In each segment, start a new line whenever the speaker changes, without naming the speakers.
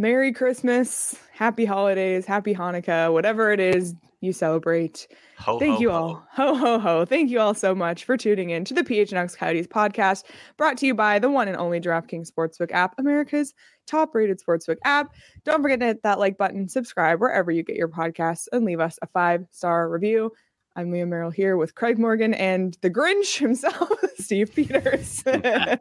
Merry Christmas, Happy Holidays, Happy Hanukkah, whatever it is you celebrate. Thank you all. Ho, ho, ho. Thank you all so much for tuning in to the PHNX Coyotes podcast, brought to you by the one and only DraftKings Sportsbook app, America's top-rated sportsbook app. Don't forget to hit that like button, subscribe wherever you get your podcasts, and leave us a 5-star review. I'm Leah Merrill here with Craig Morgan and the Grinch himself, Steve Peters. And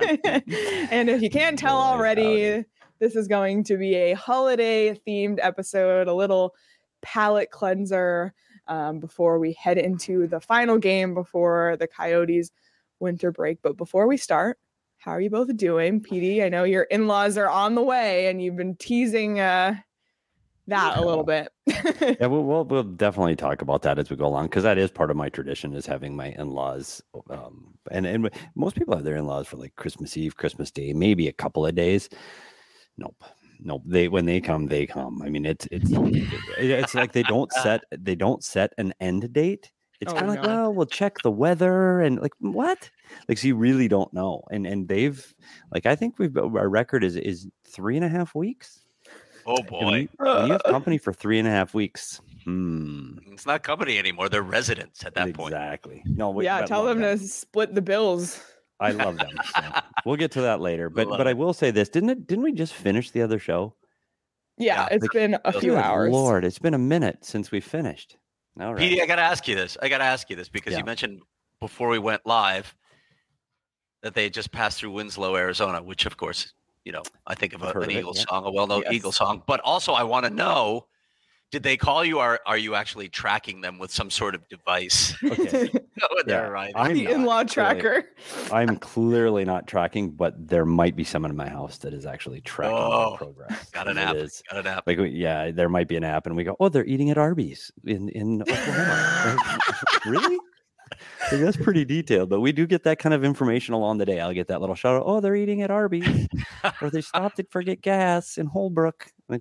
if you can't tell already, this is going to be a holiday-themed episode, a little palate cleanser before we head into the final game before the Coyotes winter break. But before we start, how are you both doing? PD, I know your in-laws are on the way and you've been teasing that a little bit.
Yeah, we'll definitely talk about that as we go along, because that is part of my tradition, is having my in-laws. And most people have their in-laws for like Christmas Eve, Christmas Day, maybe a couple of days. Nope. When they come. I mean, it's like they don't set an end date. It's kind of like, well, we'll check the weather and like what? Like, so you really don't know. And they've like, I think our record is 3.5 weeks.
Oh boy!
When you have company for 3.5 weeks,
it's not company anymore. They're residents at that point.
Exactly.
Tell them to split the bills.
I love them. So we'll get to that later. But I will say this: didn't we just finish the other show?
Yeah, it's been a few hours.
Lord, it's been a minute since we finished. All right,
Petey, I got to ask you this because you mentioned before we went live that they just passed through Winslow, Arizona, which of course, I think of an Eagles song, a well-known Eagles song. But also, I want to know, did they call you, or are you actually tracking them with some sort of device?
Okay.
I'm the in-law tracker.
I'm clearly not tracking, but there might be someone in my house that is actually tracking my progress.
Got an app.
Like, there might be an app, and we go, oh, they're eating at Arby's in Oklahoma. Really? Like, that's pretty detailed, but we do get that kind of information along the day. I'll get that little shout out, oh, they're eating at Arby's, or they stopped to get gas in Holbrook. Like,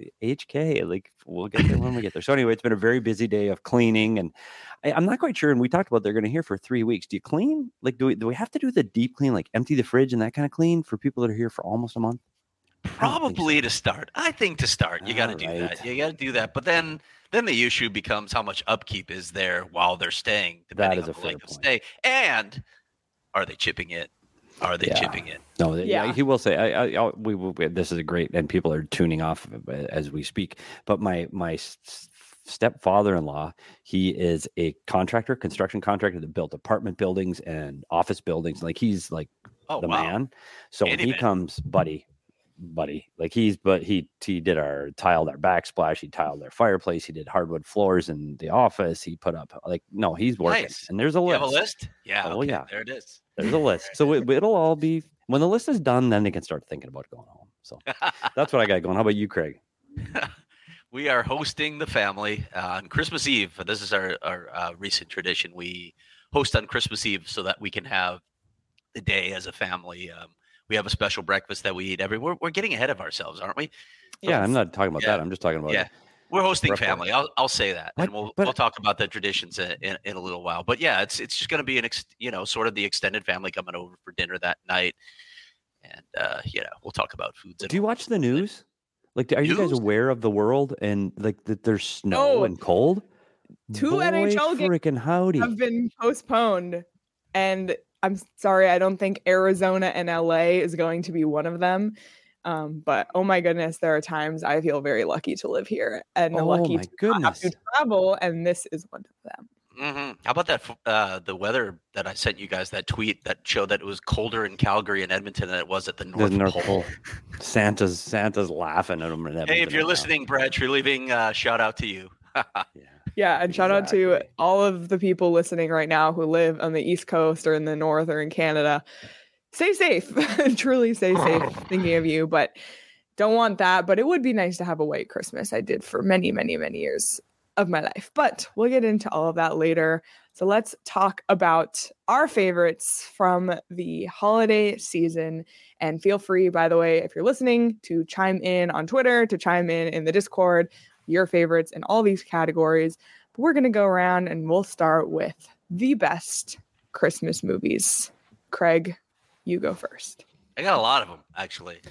HK, like, we'll get there when we get there. So anyway, it's been a very busy day of cleaning, and I'm not quite sure. And we talked about they're going to here for 3 weeks. Do you clean? Like, do we have to do the deep clean, like empty the fridge and that kind of clean for people that are here for almost a month?
Probably to start. I think to start, you got to do that. You got to do that. But then the issue becomes how much upkeep is there while they're staying, depending on the length of stay, and are they chipping it? Are they chipping it?
No, he will say. This is a great, and people are tuning off as we speak. But my stepfather-in-law, he is a construction contractor that built apartment buildings and office buildings. Like, he's like man. So when he comes, buddy, like he tiled our backsplash, he tiled our fireplace, he did hardwood floors in the office, he put up he's working.
Nice.
And there's a list.
You have a list? Yeah.
Oh, yeah.
There it is.
There's a list. So it'll all be, when the list is done, then they can start thinking about going home. So that's what I got going. How about you, Craig?
We are hosting the family on Christmas Eve. This is our recent tradition. We host on Christmas Eve so that we can have the day as a family. We have a special breakfast that we eat we're getting ahead of ourselves, aren't we?
Yeah, I'm not talking about that. I'm just talking about
we're hosting family. I'll say that, and we'll talk about the traditions in a little while. But yeah, it's just going to be sort of the extended family coming over for dinner that night, and we'll talk about foods.
Do you watch the news? Like, are you guys aware of the world and like that there's snow and cold?
Two NHL games have been postponed, and I'm sorry, I don't think Arizona and LA is going to be one of them. But oh my goodness, there are times I feel very lucky to live here and lucky to not have to travel, and this is one of them.
Mm-hmm. How about that? The weather that I sent you guys, that tweet that showed that it was colder in Calgary and Edmonton than it was at the North Pole.
Santa's laughing at them.
Hey, if you're listening, Brad, you're leaving. Shout out to you.
Yeah, and shout out to all of the people listening right now who live on the East Coast or in the North or in Canada. Stay safe. Truly stay safe. Thinking of you, but don't want that. But it would be nice to have a white Christmas. I did for many, many, many years of my life. But we'll get into all of that later. So let's talk about our favorites from the holiday season. And feel free, by the way, if you're listening, to chime in on Twitter, to chime in the Discord, your favorites in all these categories. But we're going to go around and we'll start with the best Christmas movies. Craig, you go first.
I got a lot of them, actually.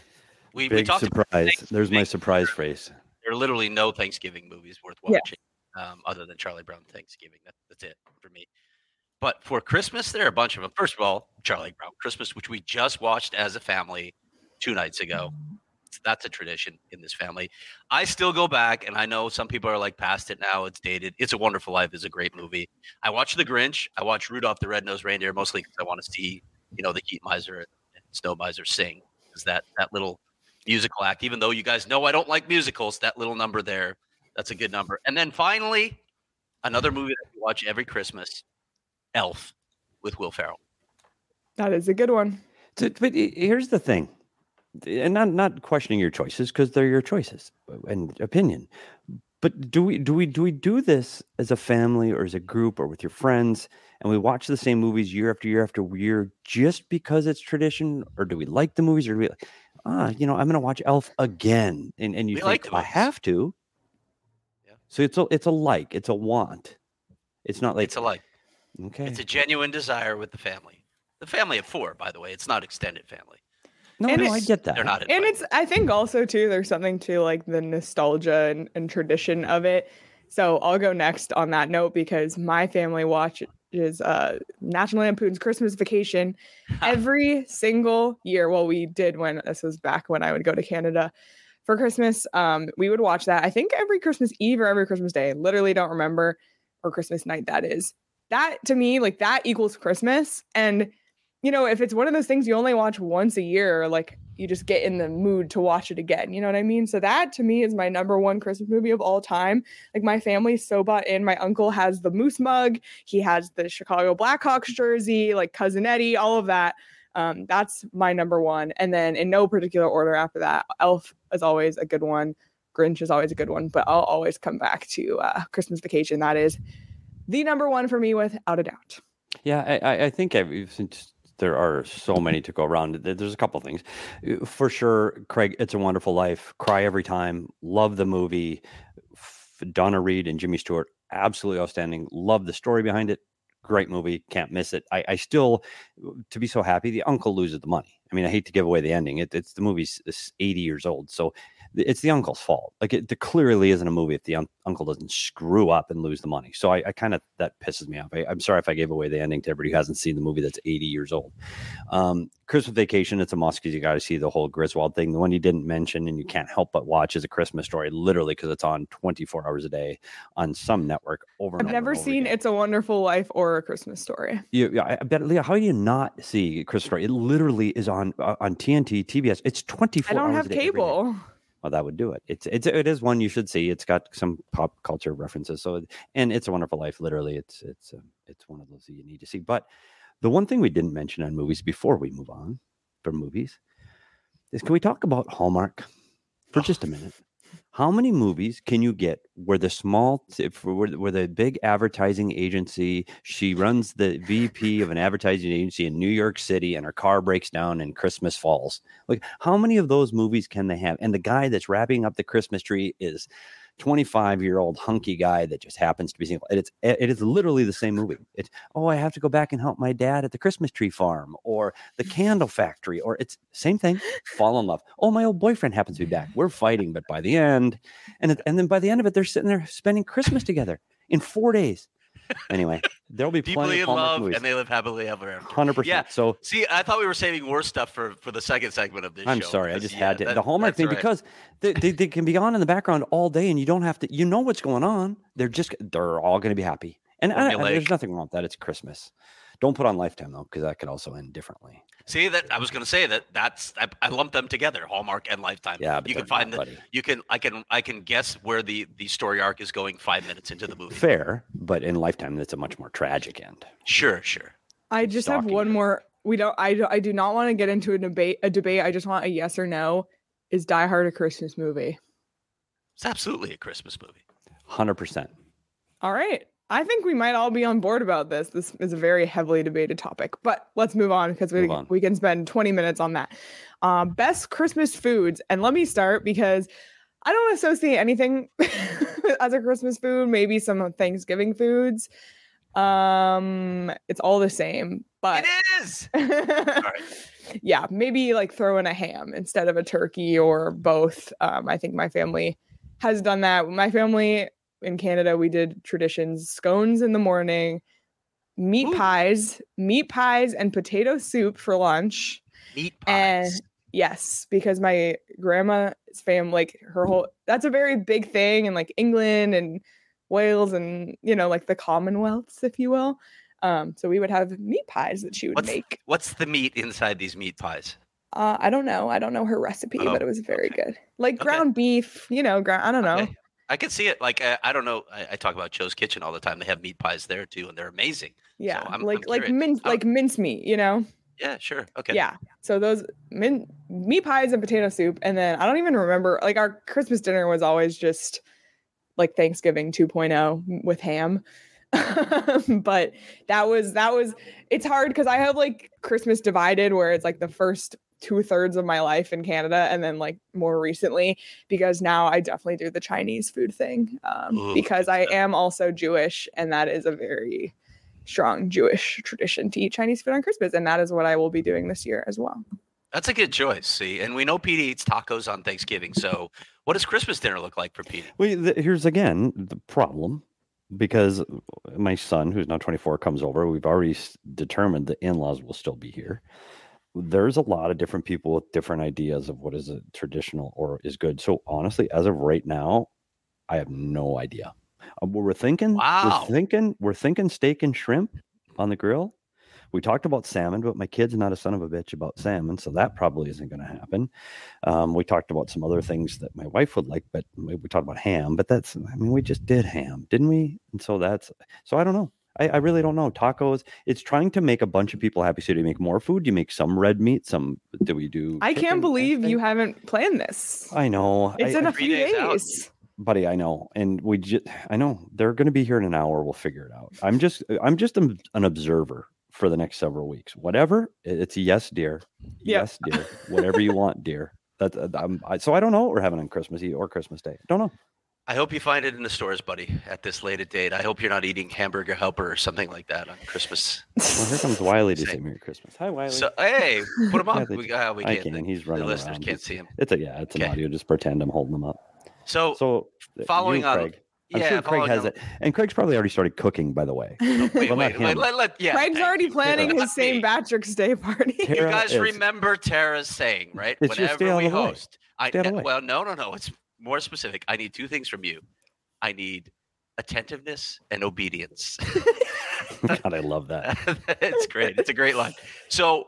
We talked
surprise. There's my surprise phrase.
There are literally no Thanksgiving movies worth watching, other than Charlie Brown Thanksgiving. That's it for me. But for Christmas, there are a bunch of them. First of all, Charlie Brown Christmas, which we just watched as a family 2 nights ago. That's a tradition in this family. I still go back, and I know some people are like past it now. It's dated. It's a Wonderful Life is a great movie. I watch The Grinch. I watch Rudolph the Red-Nosed Reindeer, mostly because I want to see, the Heat Miser and Snow Miser sing. Because that little musical act, even though you guys know I don't like musicals, that little number there, that's a good number. And then finally, another movie that we watch every Christmas, Elf with Will Ferrell.
That is a good one.
But here's the thing. And not questioning your choices, because they're your choices and opinion. But do we do this as a family or as a group or with your friends, and we watch the same movies year after year after year just because it's tradition, or do we like the movies, or do we I'm going to watch Elf again, and you think I have to? Yeah. So it's a like, it's a want. It's not like
it's a like.
Okay.
It's a genuine desire with the family. The family of 4, by the way. It's not extended family.
No, I get that.
They're not
invited. And it's, I think also too, there's something to like the nostalgia and tradition of it. So I'll go next on that note, because my family watches National Lampoon's Christmas Vacation every single year. Well, we did when this was back when I would go to Canada for Christmas. We would watch that, I think every Christmas Eve or every Christmas Day. Literally don't remember, or Christmas night, that is. That to me, like that equals Christmas. And if it's one of those things you only watch once a year, like you just get in the mood to watch it again. You know what I mean? So that to me is my number one Christmas movie of all time. Like my family's so bought in. My uncle has the Moose mug. He has the Chicago Blackhawks jersey, like Cousin Eddie, all of that. That's my number one. And then in no particular order after that, Elf is always a good one. Grinch is always a good one, but I'll always come back to Christmas Vacation. That is the number one for me without a doubt.
Yeah, I think since there are so many to go around, there's a couple of things. For sure, Craig, It's a Wonderful Life, cry every time, love the movie. Donna Reed and Jimmy Stewart, absolutely outstanding. Love the story behind it. Great movie, can't miss it. I still, to be so happy, the uncle loses the money. I mean, I hate to give away the ending. It's the movie's 80 years old, so it's the uncle's fault. Like it clearly isn't a movie if the uncle doesn't screw up and lose the money. So I kind of, that pisses me off. I'm sorry if I gave away the ending to everybody who hasn't seen the movie that's 80 years old. Christmas Vacation, it's a must because you got to see the whole Griswold thing. The one you didn't mention and you can't help but watch is A Christmas Story, literally because it's on 24 hours a day on some network over and over.
I've never seen It's a Wonderful Life or A Christmas Story.
Yeah, I bet, Leah, how do you not see Christmas Story? It literally is on TNT, TBS. It's 24 hours a day.
I don't have cable.
Well, that would do it. It is one you should see. It's got some pop culture references. So, and It's a Wonderful Life. Literally, it's one of those that you need to see. But the one thing we didn't mention on movies before we move on from movies is, can we talk about Hallmark for just a minute? How many movies can you get where where the big advertising agency, she runs the VP of an advertising agency in New York City, and her car breaks down and Christmas falls? Like, how many of those movies can they have? And the guy that's wrapping up the Christmas tree is 25-year-old hunky guy that just happens to be single. It is literally the same movie. It's, I have to go back and help my dad at the Christmas tree farm, or the candle factory, or it's same thing. Fall in love. Oh, my old boyfriend happens to be back. We're fighting, but by the end, and then by the end of it, they're sitting there spending Christmas together in 4 days. Anyway, there'll be plenty of love movies.
And they live happily ever after.
100%. Yeah. So
see, I thought we were saving more stuff for the second segment of this show.
I'm sorry, I just had to the Hallmark thing, right. Because they can be on in the background all day, and you don't have to. You know what's going on. They're all going to be happy, and there's nothing wrong with that. It's Christmas. Don't put on Lifetime though, because that could also end differently.
See, that I was going to say that's I lump them together, Hallmark and Lifetime.
Yeah, but
you can find I can guess where the story arc is going 5 minutes into the movie.
Fair, but in Lifetime, that's a much more tragic end.
Sure.
I just have one more. I do not want to get into a debate. I just want a yes or no. Is Die Hard a Christmas movie?
It's absolutely a Christmas movie.
100%.
All right. I think we might all be on board about this. This is a very heavily debated topic, but let's move on, because we can spend 20 minutes on that. Best Christmas foods. And let me start, because I don't associate anything as a Christmas food. Maybe some Thanksgiving foods. It's all the same, but
it is. All right.
yeah, maybe like throw in a ham instead of a turkey or both. I think my family has done that. My family in Canada, we did traditions, scones in the morning, meat pies, and potato soup for lunch.
Meat pies.
And yes, because my grandma's family, like her whole, that's a very big thing in like England and Wales and, you know, like the Commonwealths, if you will. So we would have meat pies that she would make.
What's the meat inside these meat pies?
I don't know. I don't know her recipe, but it was very good. Like ground beef, you know, I don't know.
I can see it. Like, I don't know. I talk about Joe's Kitchen all the time. They have meat pies there too, and they're amazing.
Yeah.
So
like mincemeat, you know?
Yeah, sure. Okay.
Yeah. So those meat pies and potato soup. And then I don't even remember, like our Christmas dinner was always just like Thanksgiving 2.0 with ham. But that was it's hard because I have like Christmas divided where it's like the first 2/3 of my life in Canada and then like more recently because now I definitely do the Chinese food thing because I am also Jewish and that is a very strong Jewish tradition to eat Chinese food on Christmas, and that is what I will be doing this year as well.
That's a good choice. See, and we know Pete eats tacos on Thanksgiving. So what does Christmas dinner look like for Pete?
Well, here's again the problem. Because my son, who's now 24, comes over. We've already determined the in-laws will still be here. There's a lot of different people with different ideas of what is a traditional or is good. So honestly, as of right now, I have no idea. We're thinking, we're thinking steak and shrimp on the grill. We talked about salmon, but my kid's not a son of a bitch about salmon, so that probably isn't going to happen. We talked about some other things that my wife would like, but we talked about ham. But we just did ham, didn't we? And so I don't know. I really don't know. Tacos, it's trying to make a bunch of people happy. So do you make more food? Do you make some red meat? Do we do?
I can't believe you haven't planned this.
I know.
It's in a few days.
Buddy, I know. And I know they're going to be here in an hour. We'll figure it out. I'm just an observer for the next several weeks. Whatever. It's a yes, dear. Yes, dear. Whatever you want, dear. So I don't know what we're having on Christmas Eve or Christmas Day. Don't know.
I hope you find it in the stores, buddy, at this late date. I hope you're not eating Hamburger Helper or something like that on Christmas.
Well, here comes Wiley to say Merry Christmas. Hi, Wiley.
So, hey, put him up. We
can't. He's running
the listeners
around.
Can't see him.
It's an audio. Just pretend I'm holding him up.
So following on.
Craig. I'm sure Craig has it. And Craig's probably already started cooking, by the way.
Wait.
Craig's already planning his St. Patrick's Day party.
You guys remember Tara's saying, right?
It's
whenever we host. Well, no. It's more specific. I need two things from you. I need attentiveness and obedience.
God, I love that.
It's great. It's a great line. So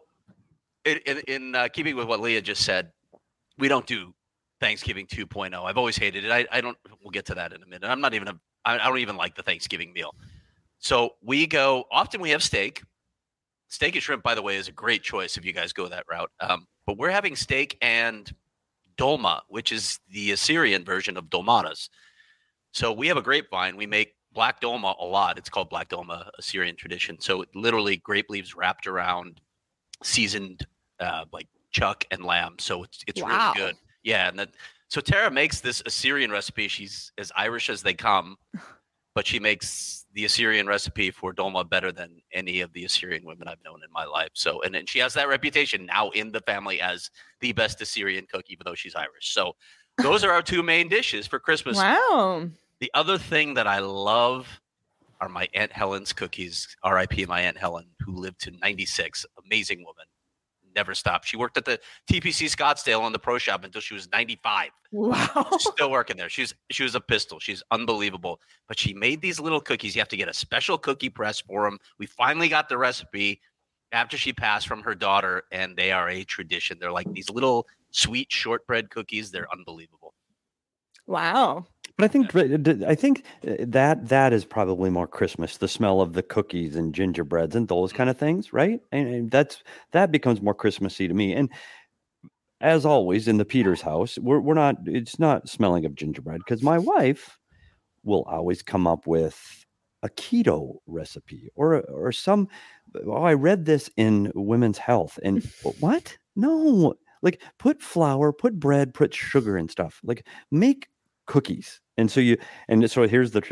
in keeping with what Leah just said, we don't do Thanksgiving 2.0. I've always hated it. We'll get to that in a minute. I don't even like the Thanksgiving meal. So often we have steak. Steak and shrimp, by the way, is a great choice if you guys go that route. But we're having steak and dolma, which is the Assyrian version of dolmadas. So we have a grapevine. We make black dolma a lot. It's called black dolma, Assyrian tradition. So literally grape leaves wrapped around seasoned like chuck and lamb. So it's really good. Yeah, so Tara makes this Assyrian recipe. She's as Irish as they come, but she makes the Assyrian recipe for dolma better than any of the Assyrian women I've known in my life. So, and then she has that reputation now in the family as the best Assyrian cook, even though she's Irish. So those are our two main dishes for Christmas.
Wow.
The other thing that I love are my Aunt Helen's cookies. R.I.P. my Aunt Helen, who lived to 96. Amazing woman. Never stopped. She worked at the TPC Scottsdale on the pro shop until she was 95.
Wow.
She's still working there. She was a pistol. She's unbelievable. But she made these little cookies. You have to get a special cookie press for them. We finally got the recipe after she passed from her daughter, and they are a tradition. They're like these little sweet shortbread cookies. They're unbelievable.
Wow.
But I think that is probably more Christmas, the smell of the cookies and gingerbreads and those kind of things, right? And that becomes more Christmassy to me. And as always in the Peters house, it's not smelling of gingerbread because my will always come up with a keto recipe or some. Oh, I read this in Women's Health, and what? No, like put flour, put bread, put sugar and stuff. Like make cookies, and so here's the tradition.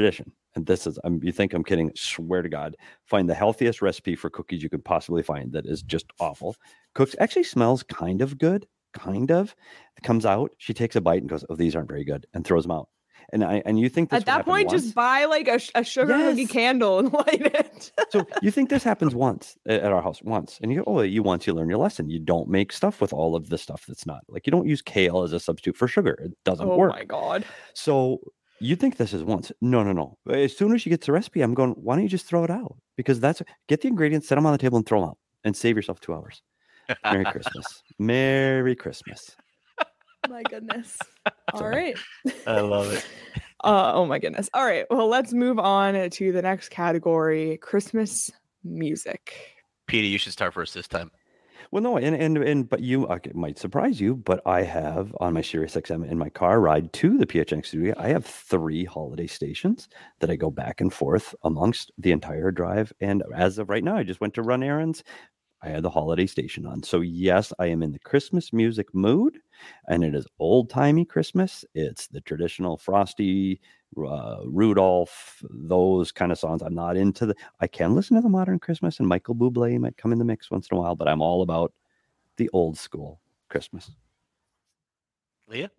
and this is, you think I'm kidding, swear to God, find the healthiest recipe for cookies you could possibly find that is just awful. Cooks, actually smells kind of good, kind of. It comes out, she takes a bite and goes, oh, these aren't very good, and throws them out. And you think this
at that point, just buy like a sugar cookie candle and light it.
So you think this happens once at our house, and you go, oh, you learn your lesson. You don't make stuff with all of the stuff that's not, like, you don't use kale as a substitute for sugar. It doesn't work. Oh
my God.
So you think this is once. No. As soon as she gets the recipe, I'm going, why don't you just throw it out? Because get the ingredients, set them on the table and throw them out and save yourself 2 hours. Merry Christmas. Merry Christmas.
My goodness. All right.
I love it.
Oh my goodness. All right. Well, let's move on to the next category, Christmas music.
Peter, you should start first this time.
Well, no, but it might surprise you, but I have on my Sirius XM in my car ride to the PHNX studio, I have 3 holiday stations that I go back and forth amongst the entire drive. And as of right now, I just went to run errands. I had the holiday station on. So yes, I am in the Christmas music mood, and it is old-timey Christmas. It's the traditional Frosty, Rudolph, those kind of songs. I'm not into I can listen to the modern Christmas, and Michael Bublé might come in the mix once in a while, but I'm all about the old school Christmas.
Leah?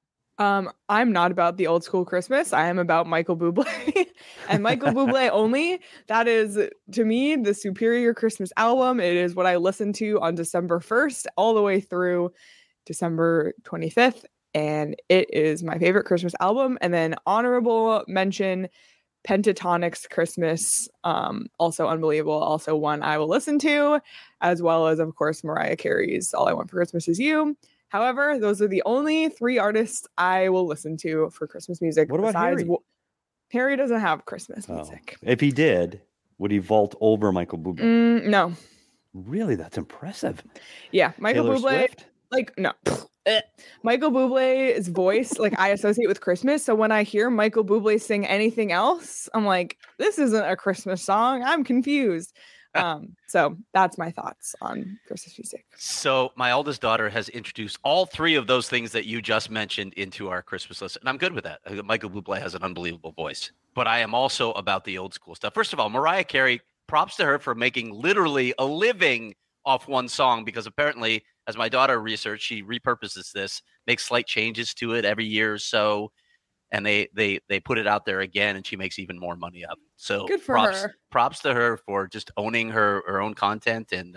I'm not about the old school Christmas. I am about Michael Bublé and Michael Bublé only. That is, to me, the superior Christmas album. It is what I listened to on December 1st all the way through December 25th. And it is my favorite Christmas album. And then honorable mention, Pentatonic's Christmas. Also unbelievable. Also one I will listen to, as well as, of course, Mariah Carey's All I Want for Christmas Is You. However, those are the only 3 artists I will listen to for Christmas music.
What about Harry?
Harry doesn't have Christmas music.
If he did, would he vault over Michael Bublé?
No.
Really? That's impressive.
Yeah, Michael
Taylor
Bublé.
Swift?
No. Michael Bublé's voice, I associate with Christmas. So when I hear Michael Bublé sing anything else, I'm like, this isn't a Christmas song. I'm confused. So that's my thoughts on Christmas music.
So my oldest daughter has introduced all 3 of those things that you just mentioned into our Christmas list, and I'm good with that. Michael Bublé has an unbelievable voice, but I am also about the old school stuff. First of all, Mariah Carey, props to her for making literally a living off one song, because apparently, as my daughter researched, she repurposes this, makes slight changes to it every year or so, and they put it out there again, and she makes even more money up. So
good for her.
Props to her for just owning her own content and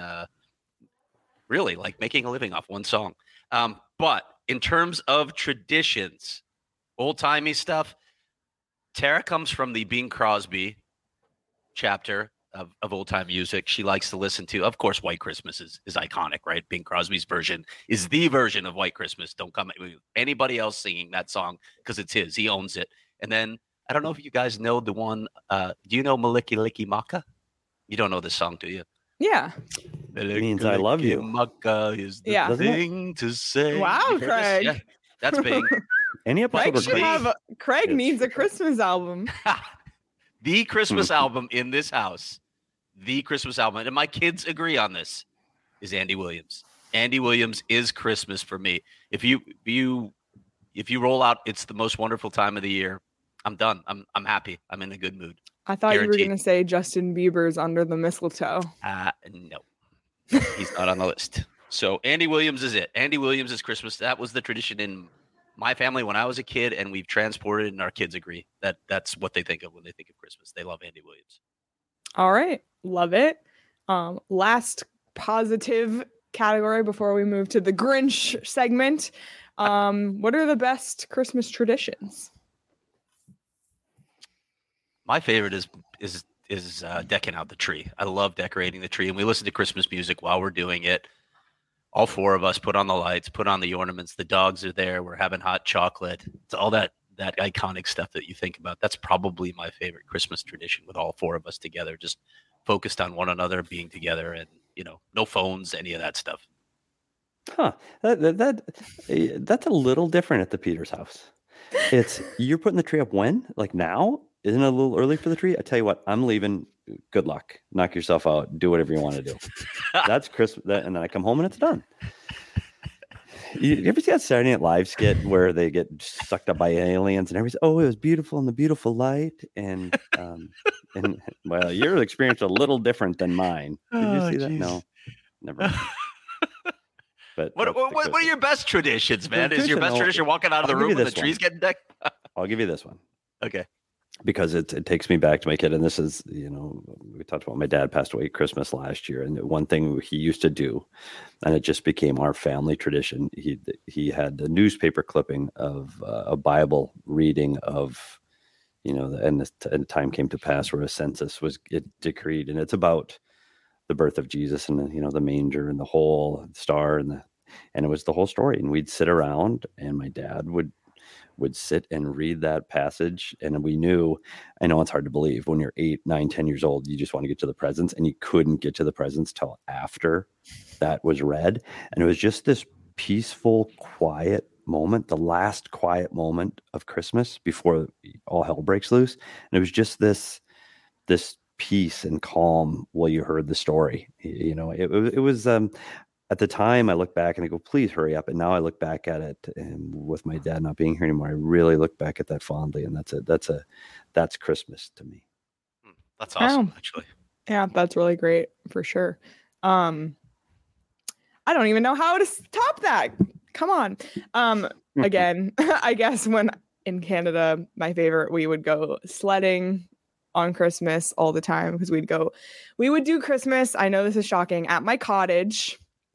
really making a living off one song. But in terms of traditions, old timey stuff, Tara comes from the Bing Crosby chapter of old time music. She likes to listen to, of course, White Christmas is iconic, right? Bing Crosby's version is the version of White Christmas. Don't come with anybody else singing that song because it's his. He owns it. And then I don't know if you guys know the one. Do you know Maliki Liki Maka? You don't know this song, do you?
Yeah.
It means I love you.
Maka is the thing to say.
Wow, Craig.
Yeah, that's Bing.
Any episode
Craig needs a Christmas album.
The Christmas album in this house, the Christmas album, and my kids agree on this, is Andy Williams. Andy Williams is Christmas for me. If you roll out "It's the Most Wonderful Time of the Year," I'm done. I'm happy. I'm in a good mood.
I thought Guaranteed. You were going to say Justin Bieber's "Under the Mistletoe."
No, he's not on the list. So Andy Williams is it. Andy Williams is Christmas. That was the tradition in my family when I was a kid, and we've transported, and our kids agree that that's what they think of when they think of Christmas. They love Andy Williams.
All right. Love it. Last positive category before we move to the Grinch segment. What are the best Christmas traditions?
My favorite is decking out the tree. I love decorating the tree, and we listen to Christmas music while we're doing it. All 4 of us put on the lights, put on the ornaments. The dogs are there. We're having hot chocolate. It's all that iconic stuff that you think about. That's probably my favorite Christmas tradition, with all 4 of us together, just focused on one another, being together, and no phones, any of that stuff.
Huh? That's a little different at the Peters house. You're putting the tree up when? Like now? Isn't it a little early for the tree? I tell you what, I'm leaving. Good luck. Knock yourself out. Do whatever you want to do. That's Christmas. And then I come home and it's done. You ever see that Saturday Night Live skit where they get sucked up by aliens and everybody's, it was beautiful in the beautiful light, and well, your experience a little different than mine. Did you see that? No, never mind. But
what are your best traditions, man? Is your best tradition walking out of the room and the trees getting decked?
I'll give you this one.
Okay.
Because it takes me back to my kid. And this is, we talked about my dad passed away Christmas last year. And one thing he used to do, and it just became our family tradition, he had a newspaper clipping of a Bible reading of, and the time came to pass where a census was decreed. And it's about the birth of Jesus and, the manger and the whole star and it was the whole story. And we'd sit around and my dad would sit and read that passage. And we knew, I know it's hard to believe when you're 8, 9, 10 years old, you just want to get to the presents, and you couldn't get to the presents till after that was read. And it was just this peaceful, quiet moment, the last quiet moment of Christmas before all hell breaks loose. And it was just this peace and calm while you heard the story. It was, at the time, I look back and I go, please hurry up. And now I look back at it, and with my dad not being here anymore, I really look back at that fondly. And that's Christmas to me.
That's awesome, actually.
Yeah, that's really great for sure. I don't even know how to top that. Come on. Again, I guess when in Canada, my favorite, we would go sledding on Christmas all the time because we would do Christmas. I know this is shocking, at my cottage.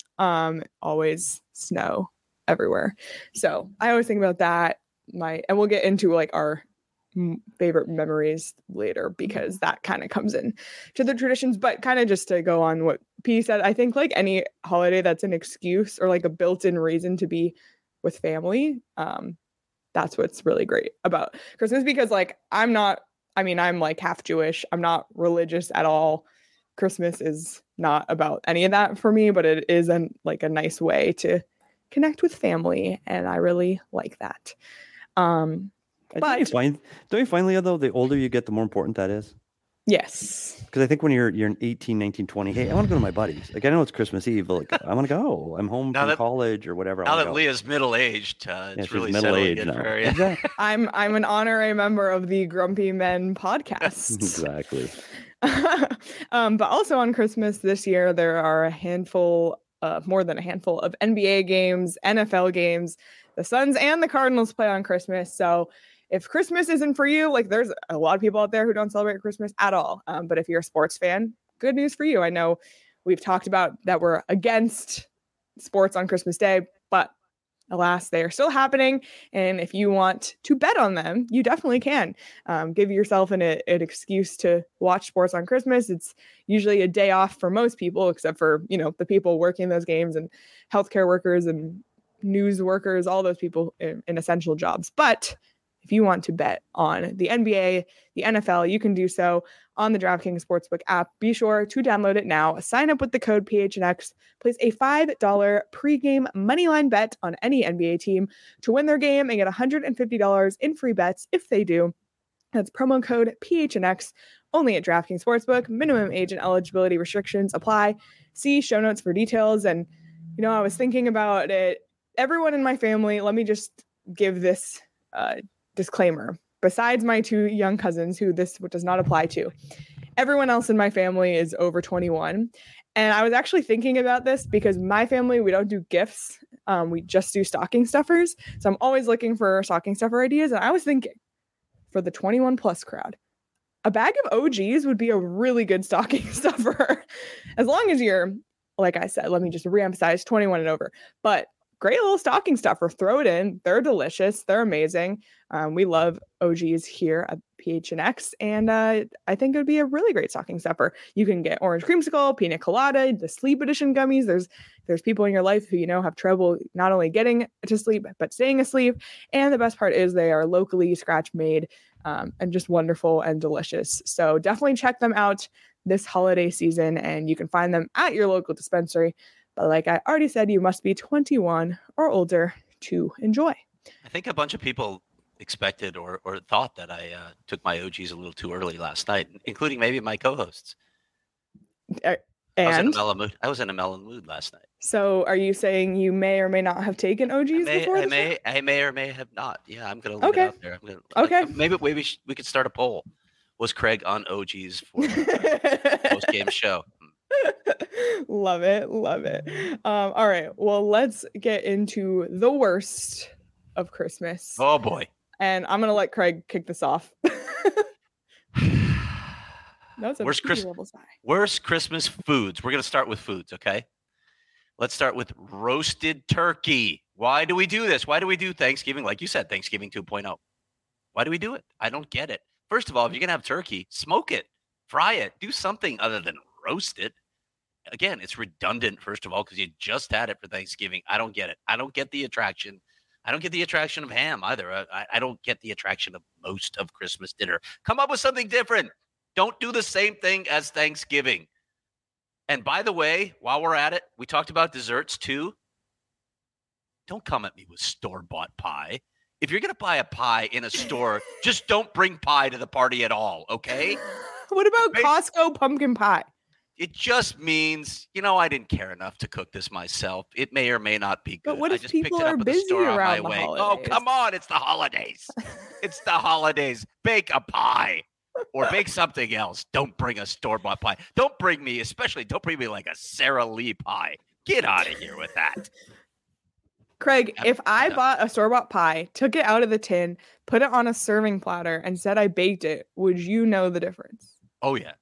Always snow everywhere. So I always think about that. And we'll get into like our favorite memories later because that kind of comes in to the traditions. But kind of just to go on what P said, I think like any holiday that's an excuse or like a built-in reason to be with family. That's what's really great about Christmas, because like I'm like half Jewish. I'm not religious at all. Christmas is not about any of that for me, but it is a nice way to connect with family, and I really like that. Don't you find,
Leah, though, the older you get, the more important that is?
Yes.
Because I think when you're 18, 19, 20, hey, I want to go to my buddies. Like, I know it's Christmas Eve, but like, I want to go. I'm home from college or whatever.
Now that Leah's middle-aged, it's really middle-aged now.
Exactly.
I'm an honorary member of the Grumpy Men podcast.
Exactly.
But also on Christmas this year, there are more than a handful of NBA games, NFL games. The Suns and the Cardinals play on Christmas. So if Christmas isn't for you, like there's a lot of people out there who don't celebrate Christmas at all. But if you're a sports fan, good news for you. I know we've talked about that we're against sports on Christmas Day, but alas, they are still happening. And if you want to bet on them, you definitely can. Give yourself an excuse to watch sports on Christmas. It's usually a day off for most people, except for, the people working those games and healthcare workers and news workers, all those people in essential jobs. But if you want to bet on the NBA, the NFL, you can do so on the DraftKings Sportsbook app. Be sure to download it now. Sign up with the code PHNX. Place a $5 pregame moneyline bet on any NBA team to win their game and get $150 in free bets if they do. That's promo code PHNX only at DraftKings Sportsbook. Minimum age and eligibility restrictions apply. See show notes for details. And, I was thinking about it. Everyone in my family, let me just give this disclaimer. Besides my 2 young cousins who this does not apply to, everyone else in my family is over 21. And I was actually thinking about this because my family, we don't do gifts. We just do stocking stuffers. So I'm always looking for stocking stuffer ideas. And I was thinking for the 21 plus crowd, a bag of OGs would be a really good stocking stuffer. As long as you're, like I said, let me just reemphasize 21 and over, but great little stocking stuffer. Throw it in. They're delicious. They're amazing. We love OGs here at PHNX, and I think it would be a really great stocking stuffer. You can get orange creamsicle, pina colada, the sleep edition gummies. There's people in your life who have trouble not only getting to sleep but staying asleep. And the best part is they are locally scratch made and just wonderful and delicious. So definitely check them out this holiday season, and you can find them at your local dispensary. But like I already said, you must be 21 or older to enjoy.
I think a bunch of people expected or thought that I took my OGs a little too early last night, including maybe my co-hosts.
And
I was in a mellow mood. I was in a mellow mood last night.
So, are you saying you may or may not have taken OGs before?
I may or may have not. Yeah, I'm gonna leave it out there. Maybe we could start a poll. Was Craig on OGs for post game show?
Love it. All right. Well, let's get into the worst of Christmas.
Oh boy.
And I'm gonna let Craig kick this off. That's a
worst Christmas foods. We're gonna start with foods, okay? Let's start with roasted turkey. Why do we do this? Why do we do Thanksgiving? Like you said, Thanksgiving 2.0. Why do we do it? I don't get it. First of all, if you're gonna have turkey, smoke it, fry it, do something other than roast it. Again, it's redundant, first of all, because you just had it for Thanksgiving. I don't get it. I don't get the attraction. I don't get the attraction of ham either. I don't get the attraction of most of Christmas dinner. Come up with something different. Don't do the same thing as Thanksgiving. And by the way, while we're at it, we talked about desserts too. Don't come at me with store-bought pie. If you're going to buy a pie in a store, just don't bring pie to the party at all, okay?
What about Costco pumpkin pie?
It just means, I didn't care enough to cook this myself. It may or may not be good.
But what if
I just
people
picked it up
are
at
busy
the store
around
on my
the
way.
holidays?
Oh, come on. It's the holidays. It's the holidays. Bake a pie or bake something else. Don't bring a store-bought pie. Don't bring me like a Sara Lee pie. Get out of here with that.
Craig, if I bought a store-bought pie, took it out of the tin, put it on a serving platter, and said I baked it, would you know the difference?
Oh, yeah.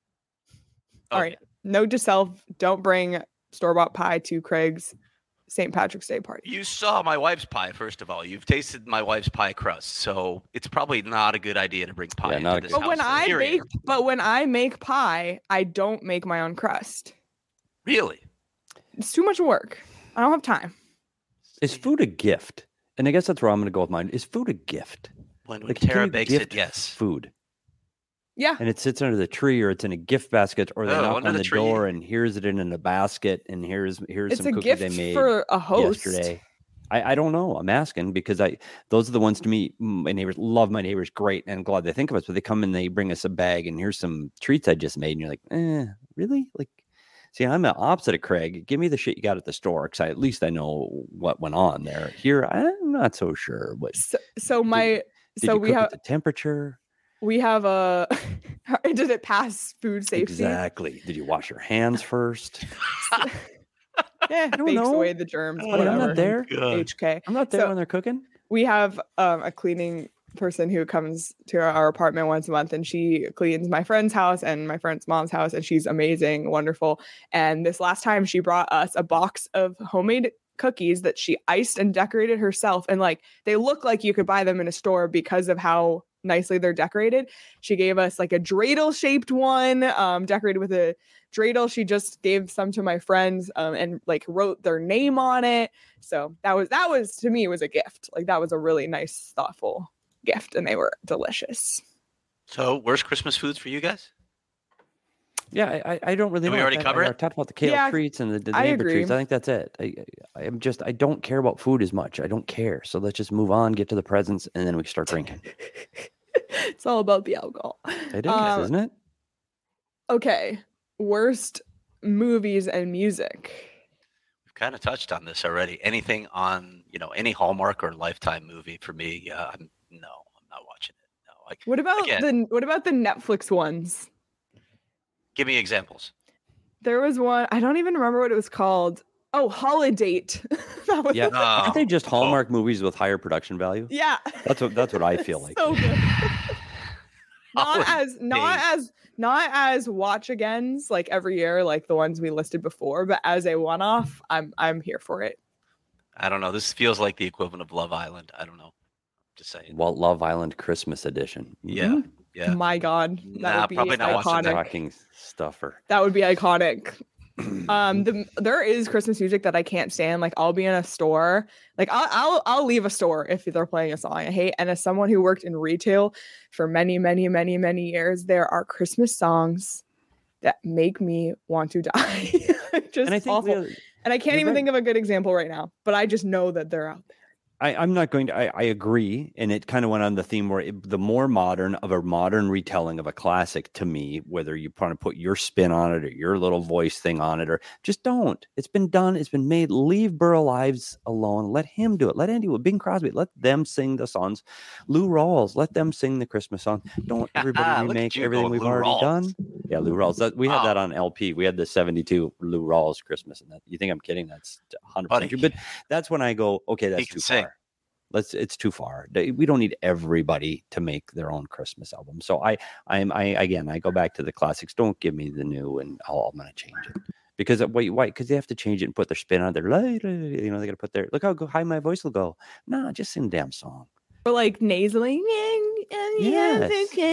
All right. Note to self, don't bring store-bought pie to Craig's St. Patrick's Day party.
You saw my wife's pie, first of all. You've tasted my wife's pie crust, so it's probably not a good idea to bring pie into this house.
But when I make pie, I don't make my own crust.
Really?
It's too much work. I don't have time.
Is food a gift? And I guess that's where I'm going to go with mine. Is food a gift?
When Tara bakes it, yes.
Food.
Yeah.
And it sits under the tree, or it's in a gift basket, or they knock on the door and here's it in a basket, and here's some cookies they made
for a host
yesterday. I don't know. I'm asking because those are the ones to me. My neighbors love my neighbors, great, and glad they think of us. But they come and they bring us a bag, and here's some treats I just made, and you're like, really? Like, see, I'm the opposite of Craig. Give me the shit you got at the store, because at least I know what went on there. Here, I'm not so sure. But
we have
the temperature.
We have did it pass food safety?
Exactly. Did you wash your hands first?
I don't know. Away the germs. Whatever.
I'm not there.
HK.
I'm not there when they're cooking.
We have a cleaning person who comes to our apartment once a month, and she cleans my friend's house and my friend's mom's house, and she's amazing, wonderful. And this last time she brought us a box of homemade cookies that she iced and decorated herself, and they look like you could buy them in a store because of how nicely they're decorated. She gave us like a dreidel shaped one, decorated with a dreidel. She just gave some to my friends and wrote their name on it. So that was to me, it was a gift. That was a really nice, thoughtful gift, and they were delicious.
So worst Christmas foods for you guys?
Yeah, I don't really know.
We already covered it?
I talked about the kale treats and the neighbor treats. I think that's it. I don't care about food as much. I don't care. So let's just move on, get to the presents, and then we can start drinking.
It's all about the alcohol.
It is, isn't it?
Okay. Worst movies and music.
We've kind of touched on this already. Anything on, any Hallmark or Lifetime movie for me, I'm not watching it. No.
What about the Netflix ones?
Give me examples.
There was one, I don't even remember what it was called. Oh, Holiday.
Aren't they just Hallmark movies with higher production value?
Yeah.
That's what I feel like.
So good. not as watch agains like every year, like the ones we listed before, but as a one-off, I'm here for it.
I don't know. This feels like the equivalent of Love Island. I don't know. Just saying.
Well, Love Island Christmas edition.
Yeah. Yeah.
My God. That would be
probably not
iconic.
Talking stuffer.
That would be iconic. There is Christmas music that I can't stand. I'll be in a store, I'll leave a store if they're playing a song I hate. And as someone who worked in retail for many, many, many, many years, there are Christmas songs that make me want to die. Just and I think awful. And I can't even think of a good example right now, but I just know that they're out there.
I'm not going to. I agree, and it kind of went on the theme where the more modern of a modern retelling of a classic to me, whether you want to put your spin on it or your little voice thing on it, or just don't. It's been done. It's been made. Leave Burl Ives alone. Let him do it. Let Andy, Bing Crosby, let them sing the songs. Lou Rawls, let them sing the Christmas song. Don't everybody remake everything we've already done. Yeah, Lou Rawls. We had that on LP. We had the 72 Lou Rawls Christmas, and that. You think I'm kidding? That's 100% true. But that's when I go, okay, that's too far. It's too far. We don't need everybody to make their own Christmas album. So I go back to the classics. Don't give me the new, and I'm going to change it because why? Because they have to change it and put their spin on it. They got to put their look how high my voice will go. No, just sing the damn song.
Or like nasally.
Yes.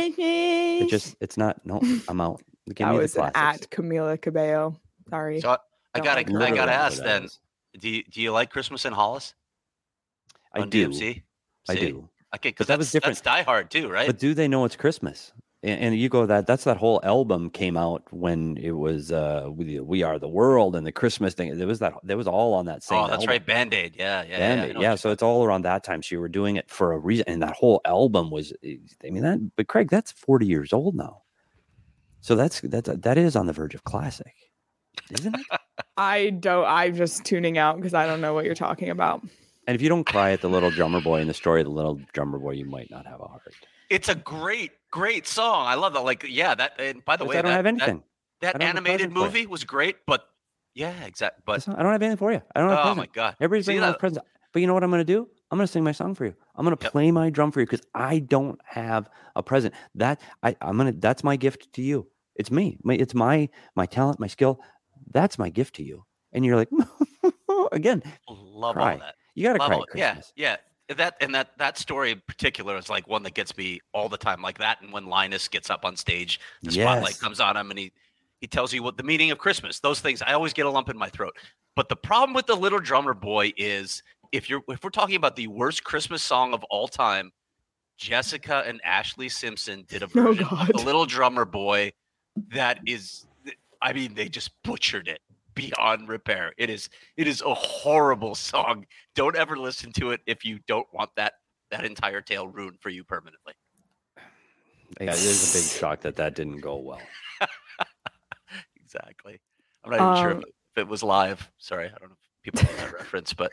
It's not. No, I'm out.
Give me the classics. At Camila Cabello. Sorry.
So I gotta ask then. Do you like Christmas in Hollis?
I do. DMC?
I
do.
Okay, because that was different. That's Die Hard too, right?
But do they know it's Christmas? And you go that's that whole album came out when it was We Are the World and the Christmas thing. There was all on that same.
Oh, that's
album.
Right, Band-Aid. Yeah.
Band-Aid. Yeah. So it's all around that time. So you were doing it for a reason, and that whole album was. I mean but Craig, that's 40 years old now. So that is on the verge of classic, isn't it?
I'm just tuning out because I don't know what you're talking about.
And if you don't cry at the Little Drummer Boy in the story of the Little Drummer Boy, you might not have a heart.
It's a great song. I love that. Like, yeah, that. And by the way,
I don't have anything.
That animated movie was great, but yeah, exactly. But
I don't have anything for you. I don't have.
Oh my god!
Everybody's bringing out presents. But you know what I'm going to do? I'm going to sing my song for you. I'm going to play my drum for you because I don't have a present. That's my gift to you. It's me. It's my talent, my skill. That's my gift to you. And you're like, again,
love
cry.
All that.
You got to cry at Christmas.
Yeah. That story in particular is like one that gets me all the time, like that. And when Linus gets up on stage, the spotlight comes on him and he tells you what the meaning of Christmas, those things, I always get a lump in my throat. But the problem with the Little Drummer Boy is if we're talking about the worst Christmas song of all time, Jessica and Ashley Simpson did a version of the Little Drummer Boy that is, I mean, they just butchered it beyond repair. It is a horrible song. Don't ever listen to it if you don't want that entire tale ruined for you permanently.
Yeah, it is a big shock that didn't go well.
Exactly. I'm not even sure if it was live. Sorry, I don't know if people know that reference, but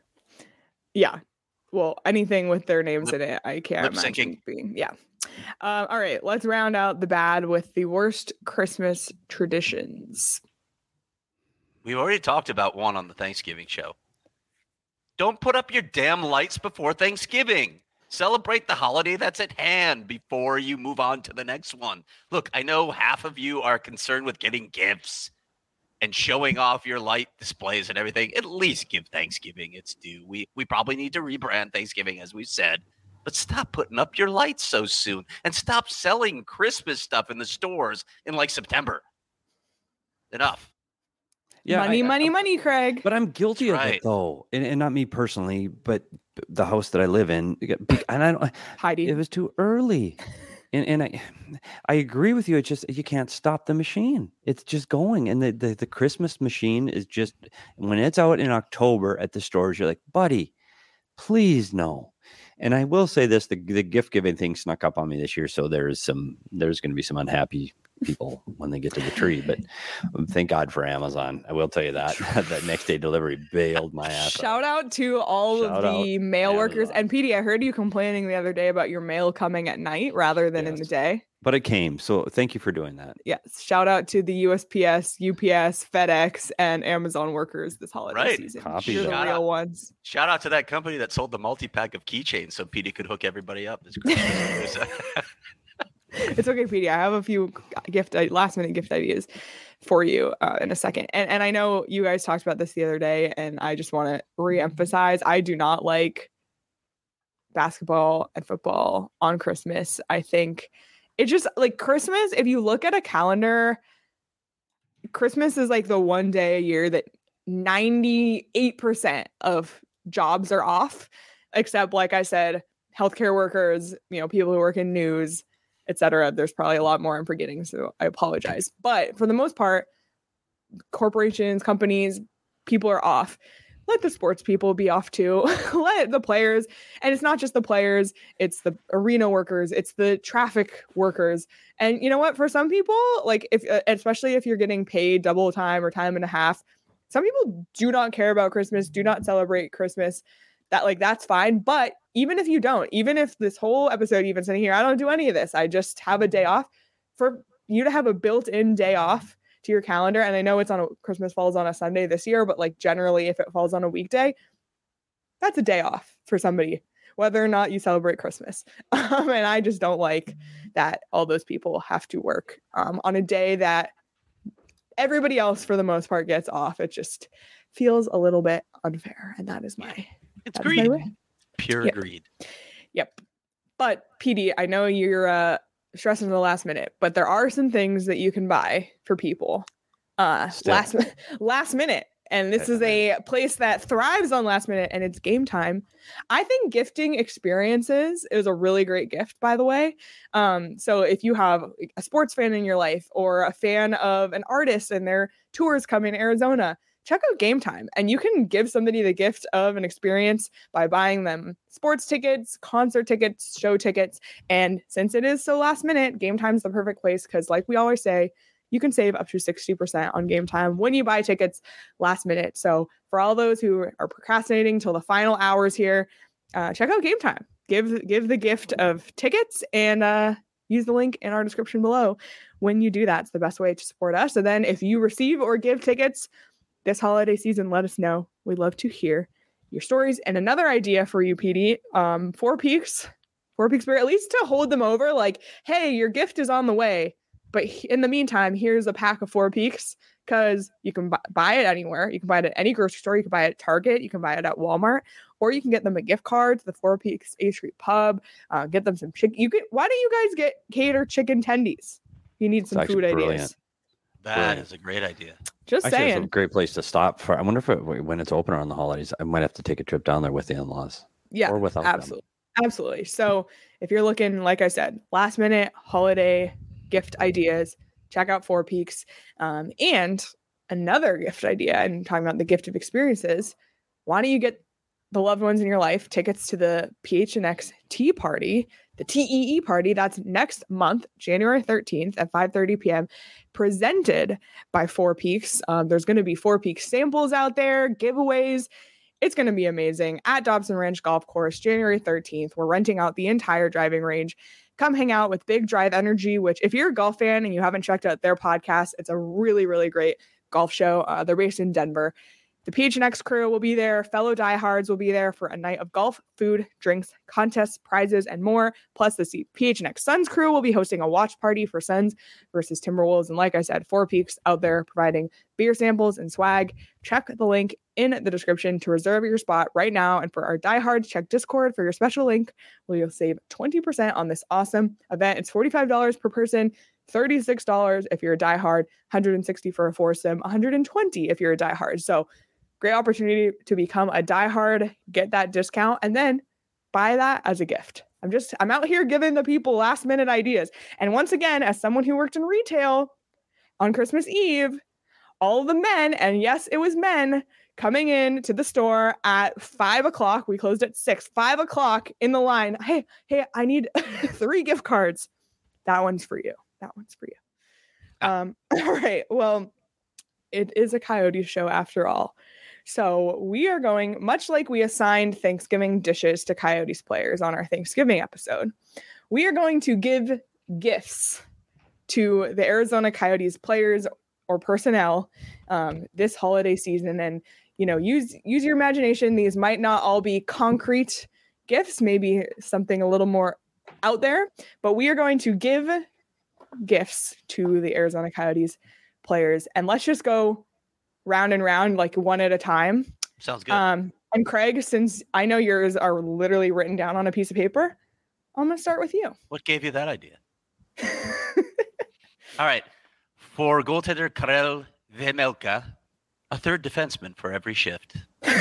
yeah. Well, anything with their names in it, I can't imagine being. Yeah. All right, let's round out the bad with the worst Christmas traditions.
We've already talked about one on the Thanksgiving show. Don't put up your damn lights before Thanksgiving. Celebrate the holiday that's at hand before you move on to the next one. Look, I know half of you are concerned with getting gifts and showing off your light displays and everything. At least give Thanksgiving its due. We probably need to rebrand Thanksgiving, as we've said. But stop putting up your lights so soon and stop selling Christmas stuff in the stores in like September. Enough.
Yeah, money, Craig.
But I'm guilty of it though, and not me personally, but the house that I live in, and I don't.
Heidi,
it was too early, and I agree with you. It's just you can't stop the machine. It's just going, and the Christmas machine is just when it's out in October at the stores. You're like, buddy, please no. And I will say this: the gift giving thing snuck up on me this year, so there's going to be some unhappy people when they get to the tree, but thank God for Amazon. I will tell you that next day delivery bailed my ass.
Shout out to all of the mail workers. And PD, I heard you complaining the other day about your mail coming at night rather than in the day.
But it came. So thank you for doing that.
Yes. Shout out to the USPS, UPS, FedEx, and Amazon workers this holiday season. You're the real ones.
Shout out to that company that sold the multi-pack of keychains so PD could hook everybody up this Christmas.
It's okay, PD. I have a few last-minute gift ideas for you in a second. And I know you guys talked about this the other day, and I just want to reemphasize, I do not like basketball and football on Christmas. I think it's just like Christmas, if you look at a calendar, Christmas is like the one day a year that 98% of jobs are off, except, like I said, healthcare workers, people who work in news, etc. There's probably a lot more I'm forgetting, so I apologize. But for the most part, corporations, companies, people are off. let the sports people be off too. Let the players, and it's not just the players, it's the arena workers, it's the traffic workers. And you know what? For some people, like especially if you're getting paid double time or time and a half, some people do not care about Christmas, do not celebrate Christmas. That's fine. But even if you don't, even if this whole episode, even sitting here, I don't do any of this, I just have a day off, for you to have a built-in day off to your calendar. And I know Christmas falls on a Sunday this year, but like generally if it falls on a weekday, that's a day off for somebody, whether or not you celebrate Christmas. And I just don't like that all those people have to work on a day that everybody else for the most part gets off. It just feels a little bit unfair. And that is
it's greed. Pure greed.
Yep. But PD, I know you're stressing the last minute, but there are some things that you can buy for people last minute. And this is a place that thrives on last minute, and it's Game Time. I think gifting experiences is a really great gift, by the way. So if you have a sports fan in your life or a fan of an artist and their tours coming to Arizona, check out Game Time. And you can give somebody the gift of an experience by buying them sports tickets, concert tickets, show tickets. And since it is so last minute, Game Time's the perfect place because, like we always say, you can save up to 60% on Game Time when you buy tickets last minute. So for all those who are procrastinating till the final hours here, check out Game Time. Give the gift of tickets and use the link in our description below. When you do that, it's the best way to support us. And then if you receive or give tickets this holiday season, let us know. We'd love to hear your stories. And another idea for you, PD, Four Peaks, at least to hold them over, like, hey, your gift is on the way. But in the meantime, here's a pack of Four Peaks, because you can buy it anywhere. You can buy it at any grocery store. You can buy it at Target. You can buy it at Walmart, or you can get them a gift card to the Four Peaks A Street Pub. Get them some chicken. Why don't you guys get catered chicken tendies? You need some food ideas.
That is a great idea.
Just saying.
It's a great place to stop for. I wonder if when it's open on the holidays, I might have to take a trip down there with the in-laws.
Yeah,
or without
them. Absolutely. So if you're looking, like I said, last minute holiday gift ideas, check out Four Peaks. And another gift idea, and talking about the gift of experiences, why don't you get the loved ones in your life tickets to the PHNX Tea Party, the TEE party that's next month, January 13th at 5:30 p.m., presented by Four Peaks. There's going to be Four Peaks samples out there, giveaways. It's going to be amazing at Dobson Ranch Golf Course, January 13th. We're renting out the entire driving range. Come hang out with Big Drive Energy, which if you're a golf fan and you haven't checked out their podcast, it's a really, really great golf show. They're based in Denver. The PHNX crew will be there. Fellow diehards will be there for a night of golf, food, drinks, contests, prizes, and more. Plus, the PHNX Suns crew will be hosting a watch party for Suns versus Timberwolves. And like I said, Four Peaks out there providing beer samples and swag. Check the link in the description to reserve your spot right now. And for our diehards, check Discord for your special link where you'll save 20% on this awesome event. It's $45 per person. $36 if you're a diehard, $160 for a foursome, $120 if you're a diehard. So great opportunity to become a diehard, get that discount, and then buy that as a gift. I'm out here giving the people last minute ideas. And once again, as someone who worked in retail on Christmas Eve, all of the men, and yes, it was men, coming in to the store at 5 o'clock. We closed at 6, 5 o'clock in the line. Hey, I need 3 gift cards. That one's for you. All right. Well, it is a Coyote show after all. So we are going, much like we assigned Thanksgiving dishes to Coyotes players on our Thanksgiving episode, we are going to give gifts to the Arizona Coyotes players or personnel this holiday season. And, use your imagination. These might not all be concrete gifts, maybe something a little more out there, but we are going to give gifts to the Arizona Coyotes players. And let's just go round and round, like one at a time.
Sounds good.
And Craig, since I know yours are literally written down on a piece of paper, I'm going to start with you.
What gave you that idea? All right. For goaltender Karel Vejmelka, a third defenseman for every shift.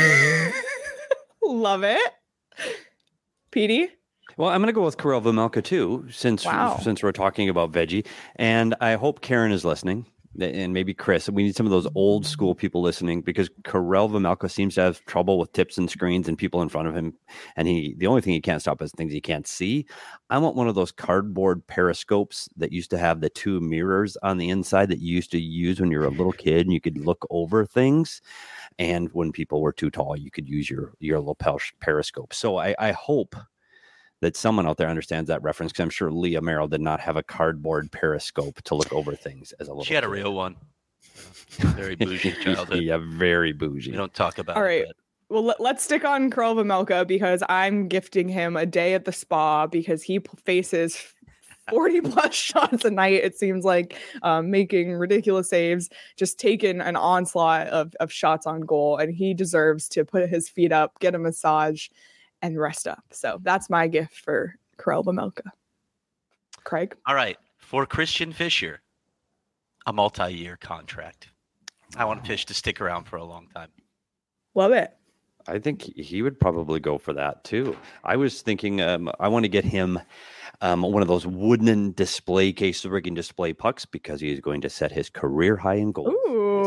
Love it. PD?
Well, I'm going to go with Karel Vejmelka too, since we're talking about veggie. And I hope Karen is listening, and maybe Chris, we need some of those old school people listening, because Karel Vejmelka seems to have trouble with tips and screens and people in front of him. And the only thing he can't stop is things he can't see. I want one of those cardboard periscopes that used to have the two mirrors on the inside that you used to use when you were a little kid and you could look over things. And when people were too tall, you could use your little periscope. So I hope that someone out there understands that reference, because I'm sure Leah Merrill did not have a cardboard periscope to look over things as a little kid.
She had a real one. Very bougie childhood.
Yeah, very bougie.
We don't talk about
All right.
it.
Well, let's stick on Karel Vejmelka, because I'm gifting him a day at the spa, because he faces 40 plus shots a night, it seems like, making ridiculous saves, just taking an onslaught of shots on goal. And he deserves to put his feet up, get a massage, and rest up. So that's my gift for Karel Vejmelka. Craig?
All right. For Christian Fischer, a multi-year contract. I want Fish to stick around for a long time.
Love it.
I think he would probably go for that too. I was thinking I want to get him one of those wooden display cases where he can display pucks, because he's going to set his career high in goals.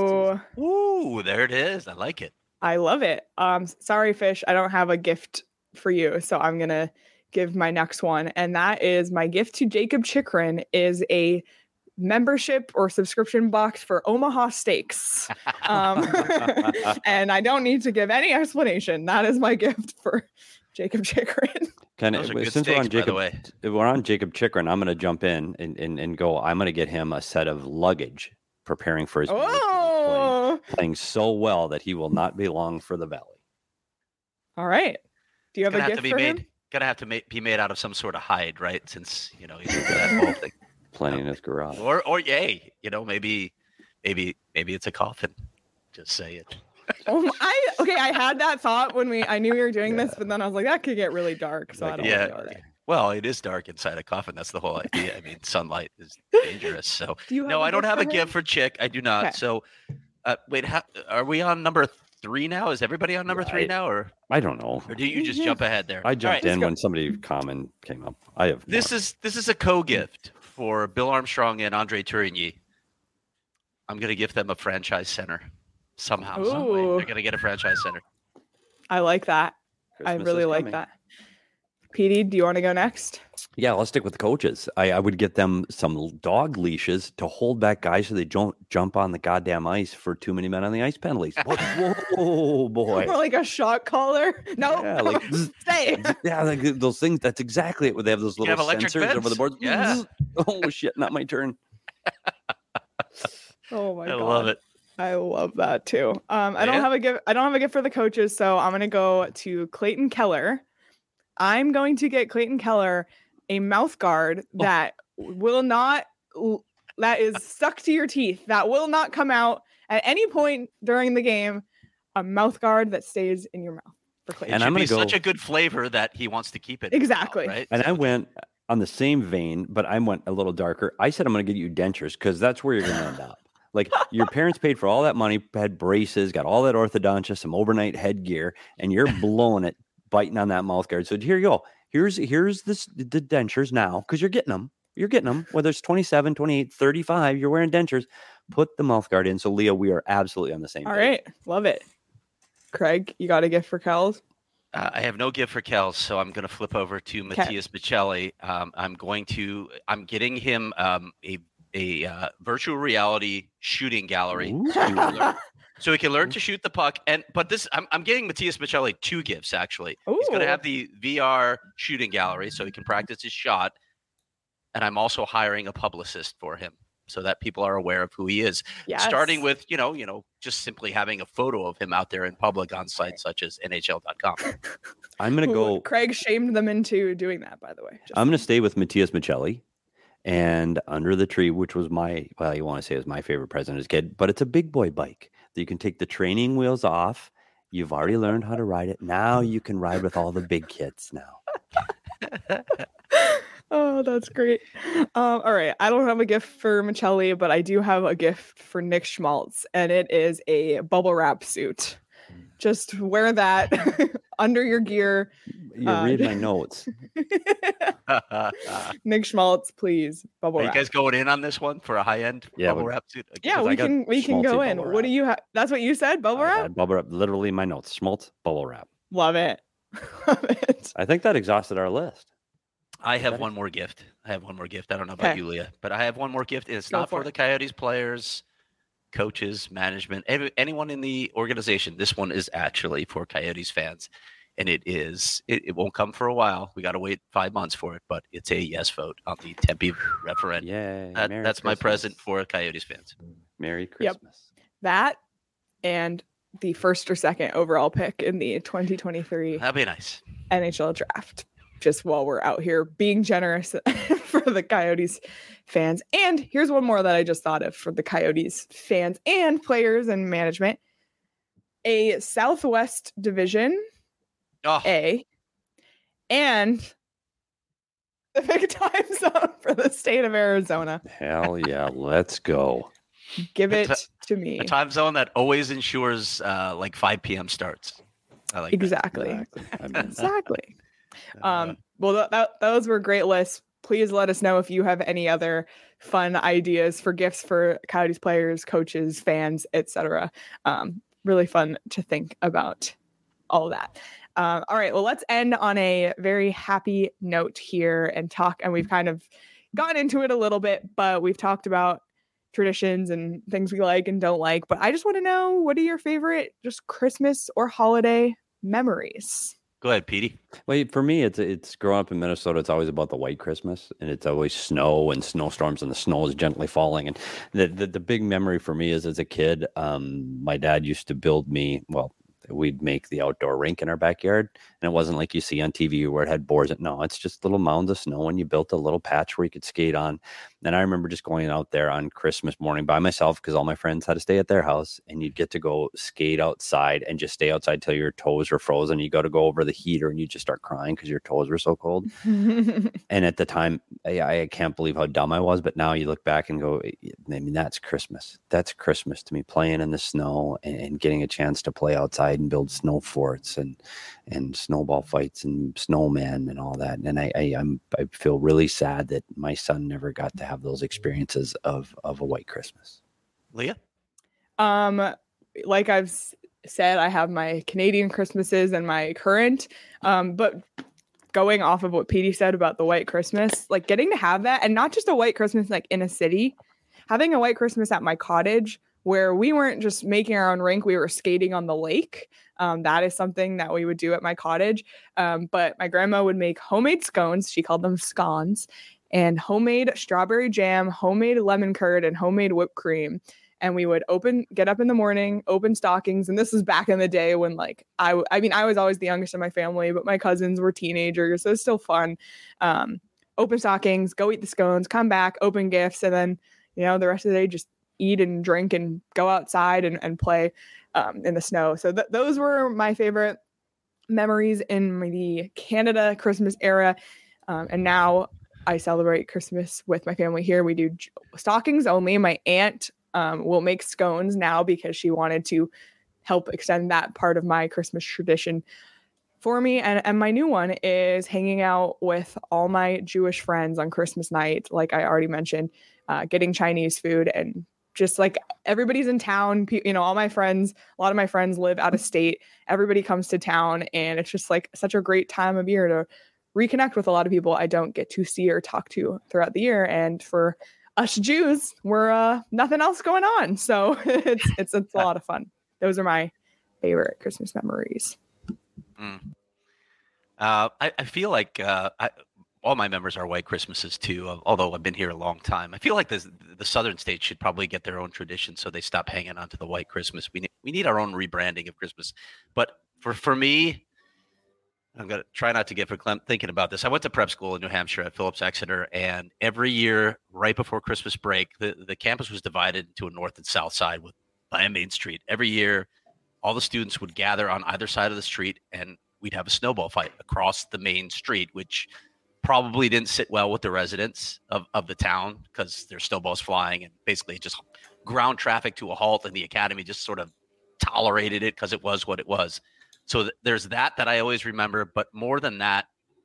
Ooh, there it is. I like it.
I love it. Sorry, Fish, I don't have a gift for you, so I'm gonna give my next one, and that is my gift to Jacob Chychrun is a membership or subscription box for Omaha Steaks. And I don't need to give any explanation. That is my gift for Jacob Chychrun.
Since we're on Jacob Chychrun, I'm going to jump in and go. I'm going to get him a set of luggage, preparing for his playing so well that he will not be long for the Valley.
All right. Do you have a gift for him?
Gonna have to be made out of some sort of hide, right? Since he's that whole thing.
Plenty in his garage.
Or yay, maybe it's a coffin. Just say it.
I had that thought when I knew we were doing this, but then I was like, that could get really dark. So I don't know.
Well, it is dark inside a coffin. That's the whole idea. I mean, sunlight is dangerous. So I don't have a gift for Chick. I do not. Okay. So wait, are we on number 3 now? Is everybody on number 3 now, or
I don't know?
Or do you just jump ahead there?
I jumped in when somebody common came up. I have
this is a co-gift for Bill Armstrong and Andre Tourigny. I'm gonna gift them a franchise center somehow. Some way. They're gonna get a franchise center.
I like that.
Christmas
I really like that. PD, do you want to go next?
Yeah, let's stick with the coaches. I would get them some dog leashes to hold back guys so they don't jump on the goddamn ice for too many men on the ice penalties. Whoa, boy.
Or like a shot collar. No, stay.
Yeah, like those things. That's exactly it. Where they have those little sensors over the board.
Yeah.
Oh, shit, not my turn.
Oh, my God.
I love it.
I love that, too. I don't have a gift for the coaches, so I'm going to go to Clayton Keller. I'm going to get Clayton Keller a mouth guard that is stuck to your teeth, that will not come out at any point during the game. A mouth guard that stays in your mouth for Clayton.
And I'm going to such a good flavor that he wants to keep it.
Exactly.
Mouth, right?
And I went on the same vein, but I went a little darker. I said I'm going to get you dentures, because that's where you're going to end up. Like, your parents paid for all that money, had braces, got all that orthodontia, some overnight headgear, and you're blowing it, biting on that mouth guard. So here you go. Here's the dentures now, because you're getting them. You're getting them. Whether it's 27, 28, 35, you're wearing dentures. Put the mouth guard in. So, Leah, we are absolutely on the same page.
All right. Love it. Craig, you got a gift for Kels?
I have no gift for Kels, so I'm going to flip over to Matthias Michelli. I'm getting him a virtual reality shooting gallery. So he can learn to shoot the puck. But I'm getting Matthias Michelli 2 gifts, actually. Ooh. He's going to have the VR shooting gallery so he can practice his shot. And I'm also hiring a publicist for him so that people are aware of who he is. Yes. Starting with, just simply having a photo of him out there in public on sites such as NHL.com.
I'm going to go.
Craig shamed them into doing that, by the way.
I'm going to stay with Matthias Michelli. And Under the Tree, which was you want to say it was my favorite present as a kid, but it's a big boy bike that you can take the training wheels off. You've already learned how to ride it. Now you can ride with all the big kids now.
Oh, that's great. All right. I don't have a gift for Michelli, but I do have a gift for Nick Schmaltz, and it is a bubble wrap suit Just wear that under your gear.
You read my notes.
Nick Schmaltz, please. Bubble
wrap.
Are
you guys going in on this one for a high-end bubble wrap suit?
Yeah, we can go in. What do you have? That's what you said, bubble wrap?
Bubble wrap, literally my notes. Schmaltz, bubble wrap.
Love it. Love it.
I think that exhausted our list.
I have one more gift. I don't know about you, Leah, but I have one more gift. It's not for the Coyotes players, coaches, management, anyone in the organization. This one is actually for Coyotes fans, and it won't come for a while. We got to wait 5 months for it, but it's a yes vote on the Tempe referendum.
Yay,
that's my present for Coyotes fans.
Merry Christmas.
Yep. That and the first or second overall pick in the 2023
That'd be nice
NHL draft. Just while we're out here being generous for the Coyotes fans. And here's one more that I just thought of for the Coyotes fans and players and management. A Southwest Division A and the big time zone for the state of Arizona.
Hell yeah, let's go.
Give it to me.
A time zone that always ensures like 5 p.m. starts. I like
exactly. Exactly. Well, those were great lists. Please let us know if you have any other fun ideas for gifts for Coyotes players, coaches, fans, etc. Really fun to think about all that. All right, well, let's end on a very happy note here and talk. And we've kind of gotten into it a little bit, but we've talked about traditions and things we like and don't like. But I just want to know, what are your favorite just Christmas or holiday memories?
Go ahead, Petey.
Well, for me, it's growing up in Minnesota. It's always about the white Christmas, and it's always snow and snowstorms, and the snow is gently falling. And the big memory for me is, as a kid, my dad used to build me. Well, we'd make the outdoor rink in our backyard, and it wasn't like you see on TV where it had boards. No, it's just little mounds of snow, and you built a little patch where you could skate on. And I remember just going out there on Christmas morning by myself because all my friends had to stay at their house, and you'd get to go skate outside and just stay outside till your toes were frozen. You got to go over the heater, and you just start crying because your toes were so cold. And at the time, I can't believe how dumb I was. But now you look back and go, I mean, that's Christmas. That's Christmas to me, playing in the snow and getting a chance to play outside and build snow forts and snowball fights and snowmen and all that. And I feel really sad that my son never got to have those experiences of a white Christmas.
Leah?
Like I've said, I have my Canadian Christmases and my current, but going off of what Petey said about the white Christmas, like getting to have that, and not just a white Christmas like in a city, having a white Christmas at my cottage where we weren't just making our own rink, we were skating on the lake. That is something that we would do at my cottage. But my grandma would make homemade scones. She called them scones, and homemade strawberry jam, homemade lemon curd, and homemade whipped cream. And we would get up in the morning, open stockings. And this was back in the day when I was always the youngest in my family, but my cousins were teenagers. So it's still fun. Open stockings, go eat the scones, come back, open gifts. And then, the rest of the day, just eat and drink and go outside and play in the snow. So those were my favorite memories in the Canada Christmas era. And now I celebrate Christmas with my family here. We do stockings only. My aunt will make scones now because she wanted to help extend that part of my Christmas tradition for me. And my new one is hanging out with all my Jewish friends on Christmas night, like I already mentioned, getting Chinese food, and just like everybody's in town, all my friends, a lot of my friends live out of state. Everybody comes to town, and it's just like such a great time of year to reconnect with a lot of people I don't get to see or talk to throughout the year. And for us Jews, we're nothing else going on. So it's a lot of fun. Those are my favorite Christmas memories.
I feel like all my members are white Christmases too, although I've been here a long time. I feel like the southern states should probably get their own tradition so they stop hanging on to the white Christmas. We need our own rebranding of Christmas. But for me, I'm going to try not to get verklempt thinking about this. I went to prep school in New Hampshire at Phillips Exeter, and every year right before Christmas break, the campus was divided into a north and south side by a main street. Every year, all the students would gather on either side of the street, and we'd have a snowball fight across the main street, which probably didn't sit well with the residents of the town because there's snowballs flying, and basically just ground traffic to a halt, and the academy just sort of tolerated it because it was what it was. So there's that I always remember. But more than that,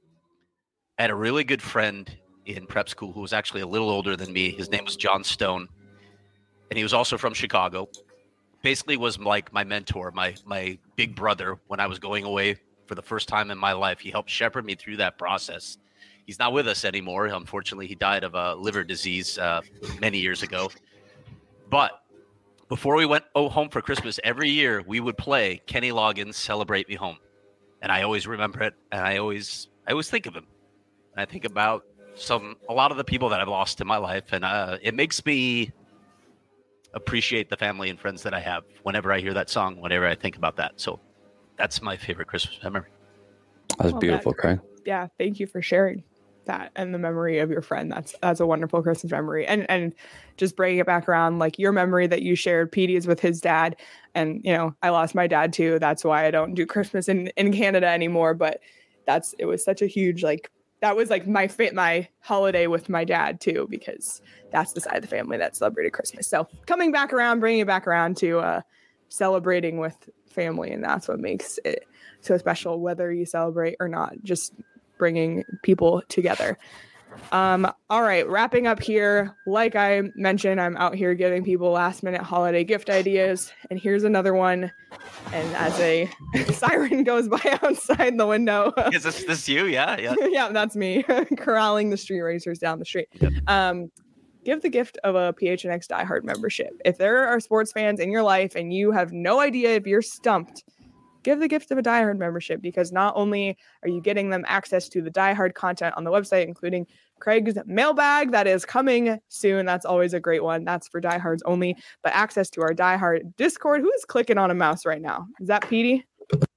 I had a really good friend in prep school who was actually a little older than me. His name was John Stone, and he was also from Chicago. Basically was like my mentor, my big brother when I was going away for the first time in my life. He helped shepherd me through that process. He's not with us anymore. Unfortunately, he died of a liver disease many years ago. But before we went home for Christmas, every year we would play Kenny Loggins' Celebrate Me Home. And I always remember it, and I always think of him. And I think about a lot of the people that I've lost in my life, and it makes me appreciate the family and friends that I have whenever I hear that song, whenever I think about that. So that's my favorite Christmas memory.
That's beautiful, Craig.
Yeah, thank you for sharing that and the memory of your friend. That's a wonderful Christmas memory. And just bringing it back around, like your memory that you shared, Petey, is with his dad. And, you know, I lost my dad too. That's why I don't do Christmas in Canada anymore. But it was such a huge, like, that was like my holiday with my dad too, because that's the side of the family that celebrated Christmas. So coming back around, bringing it back around to celebrating with family. And that's what makes it so special, whether you celebrate or not, just bringing people together. All right, wrapping up here. Like I mentioned, I'm out here giving people last minute holiday gift ideas. And here's another one. And as a siren goes by outside the window.
Is this you? Yeah.
Yeah, that's me corralling the street racers down the street. Yep. Give the gift of a PHNX Die Hard membership. If there are sports fans in your life and you have no idea if you're stumped, give the gift of a Die Hard membership, because not only are you getting them access to the Die Hard content on the website, including Craig's mailbag that is coming soon. That's always a great one. That's for Die Hards only, but access to our Die Hard Discord. Who is clicking on a mouse right now? Is that Petey?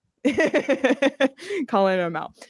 Calling him out.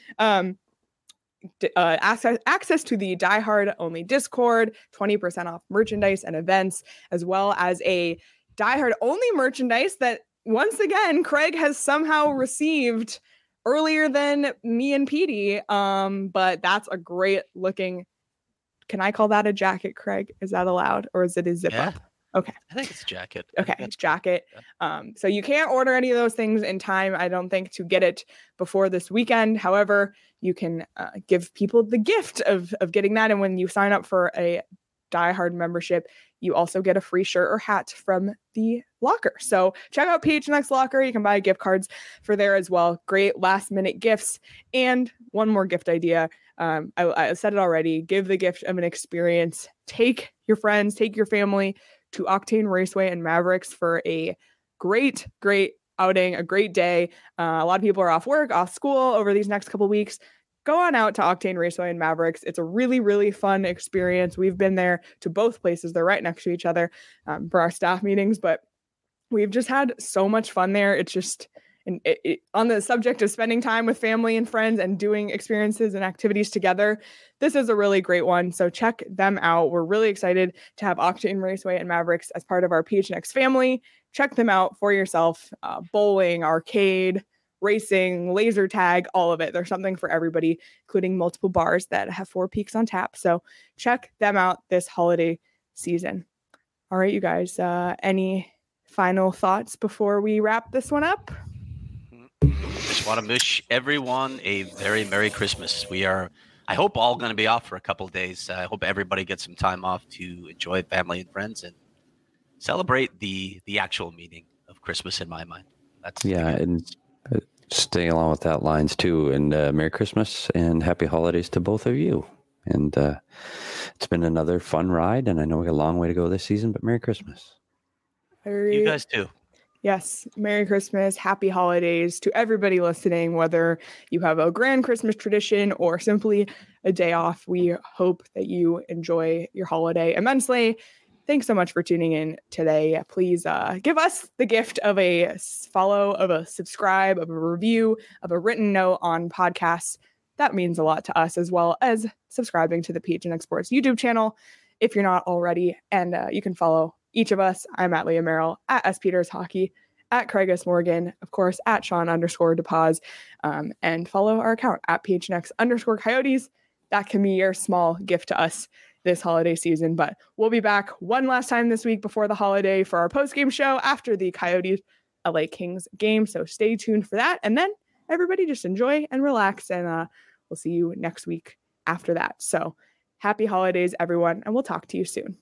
Access to the Die Hard only Discord, 20% off merchandise and events, as well as a Die Hard only merchandise that once again Craig has somehow received earlier than me and Petey. But that's a great looking. Can I call that a jacket, Craig? Is that allowed, or is it a zip up? Okay.
I think it's a jacket.
Okay, it's jacket. So you can't order any of those things in time, I don't think, to get it before this weekend. However, you can give people the gift of getting that. And when you sign up for a Die Hard membership, you also get a free shirt or hat from the locker. So check out PHNX Locker. You can buy gift cards for there as well. Great last minute gifts. And one more gift idea. I said it already. Give the gift of an experience. Take your friends, take your family to Octane Raceway and Mavericks for a great outing, a great day. A lot of people are off work, off school over these next couple weeks. Go on out to Octane Raceway and Mavericks. It's a really, really fun experience. We've been there to both places. They're right next to each other for our staff meetings, but we've just had so much fun there. It's just on the subject of spending time with family and friends and doing experiences and activities together. This is a really great one. So check them out. We're really excited to have Octane Raceway and Mavericks as part of our PHNX family. Check them out for yourself. Bowling, arcade, racing, laser tag, all of it. There's something for everybody, including multiple bars that have 4 Peaks on tap. So check them out this holiday season. All right, you guys, any final thoughts before we wrap this one up?
Just want to wish everyone a very Merry Christmas. We are, I hope, all going to be off for a couple of days. I hope everybody gets some time off to enjoy family and friends and celebrate the actual meaning of Christmas in my mind. That's
and staying along with that lines too. And Merry Christmas and Happy Holidays to both of you. And it's been another fun ride, and I know we got a long way to go this season, but Merry Christmas.
You guys too.
Yes. Merry Christmas. Happy holidays to everybody listening, whether you have a grand Christmas tradition or simply a day off. We hope that you enjoy your holiday immensely. Thanks so much for tuning in today. Please give us the gift of a follow, of a subscribe, of a review, of a written note on podcasts. That means a lot to us, as well as subscribing to the PHNX Sports YouTube channel if you're not already. And you can follow each of us. I'm at Leah Merrill, at S. Peters Hockey, at Craig S. Morgan, of course, at Sean_DePaz, and follow our account at PHNX_Coyotes. That can be your small gift to us this holiday season. But we'll be back one last time this week before the holiday for our post-game show after the Coyotes LA Kings game. So stay tuned for that. And then everybody just enjoy and relax. And we'll see you next week after that. So happy holidays, everyone. And we'll talk to you soon.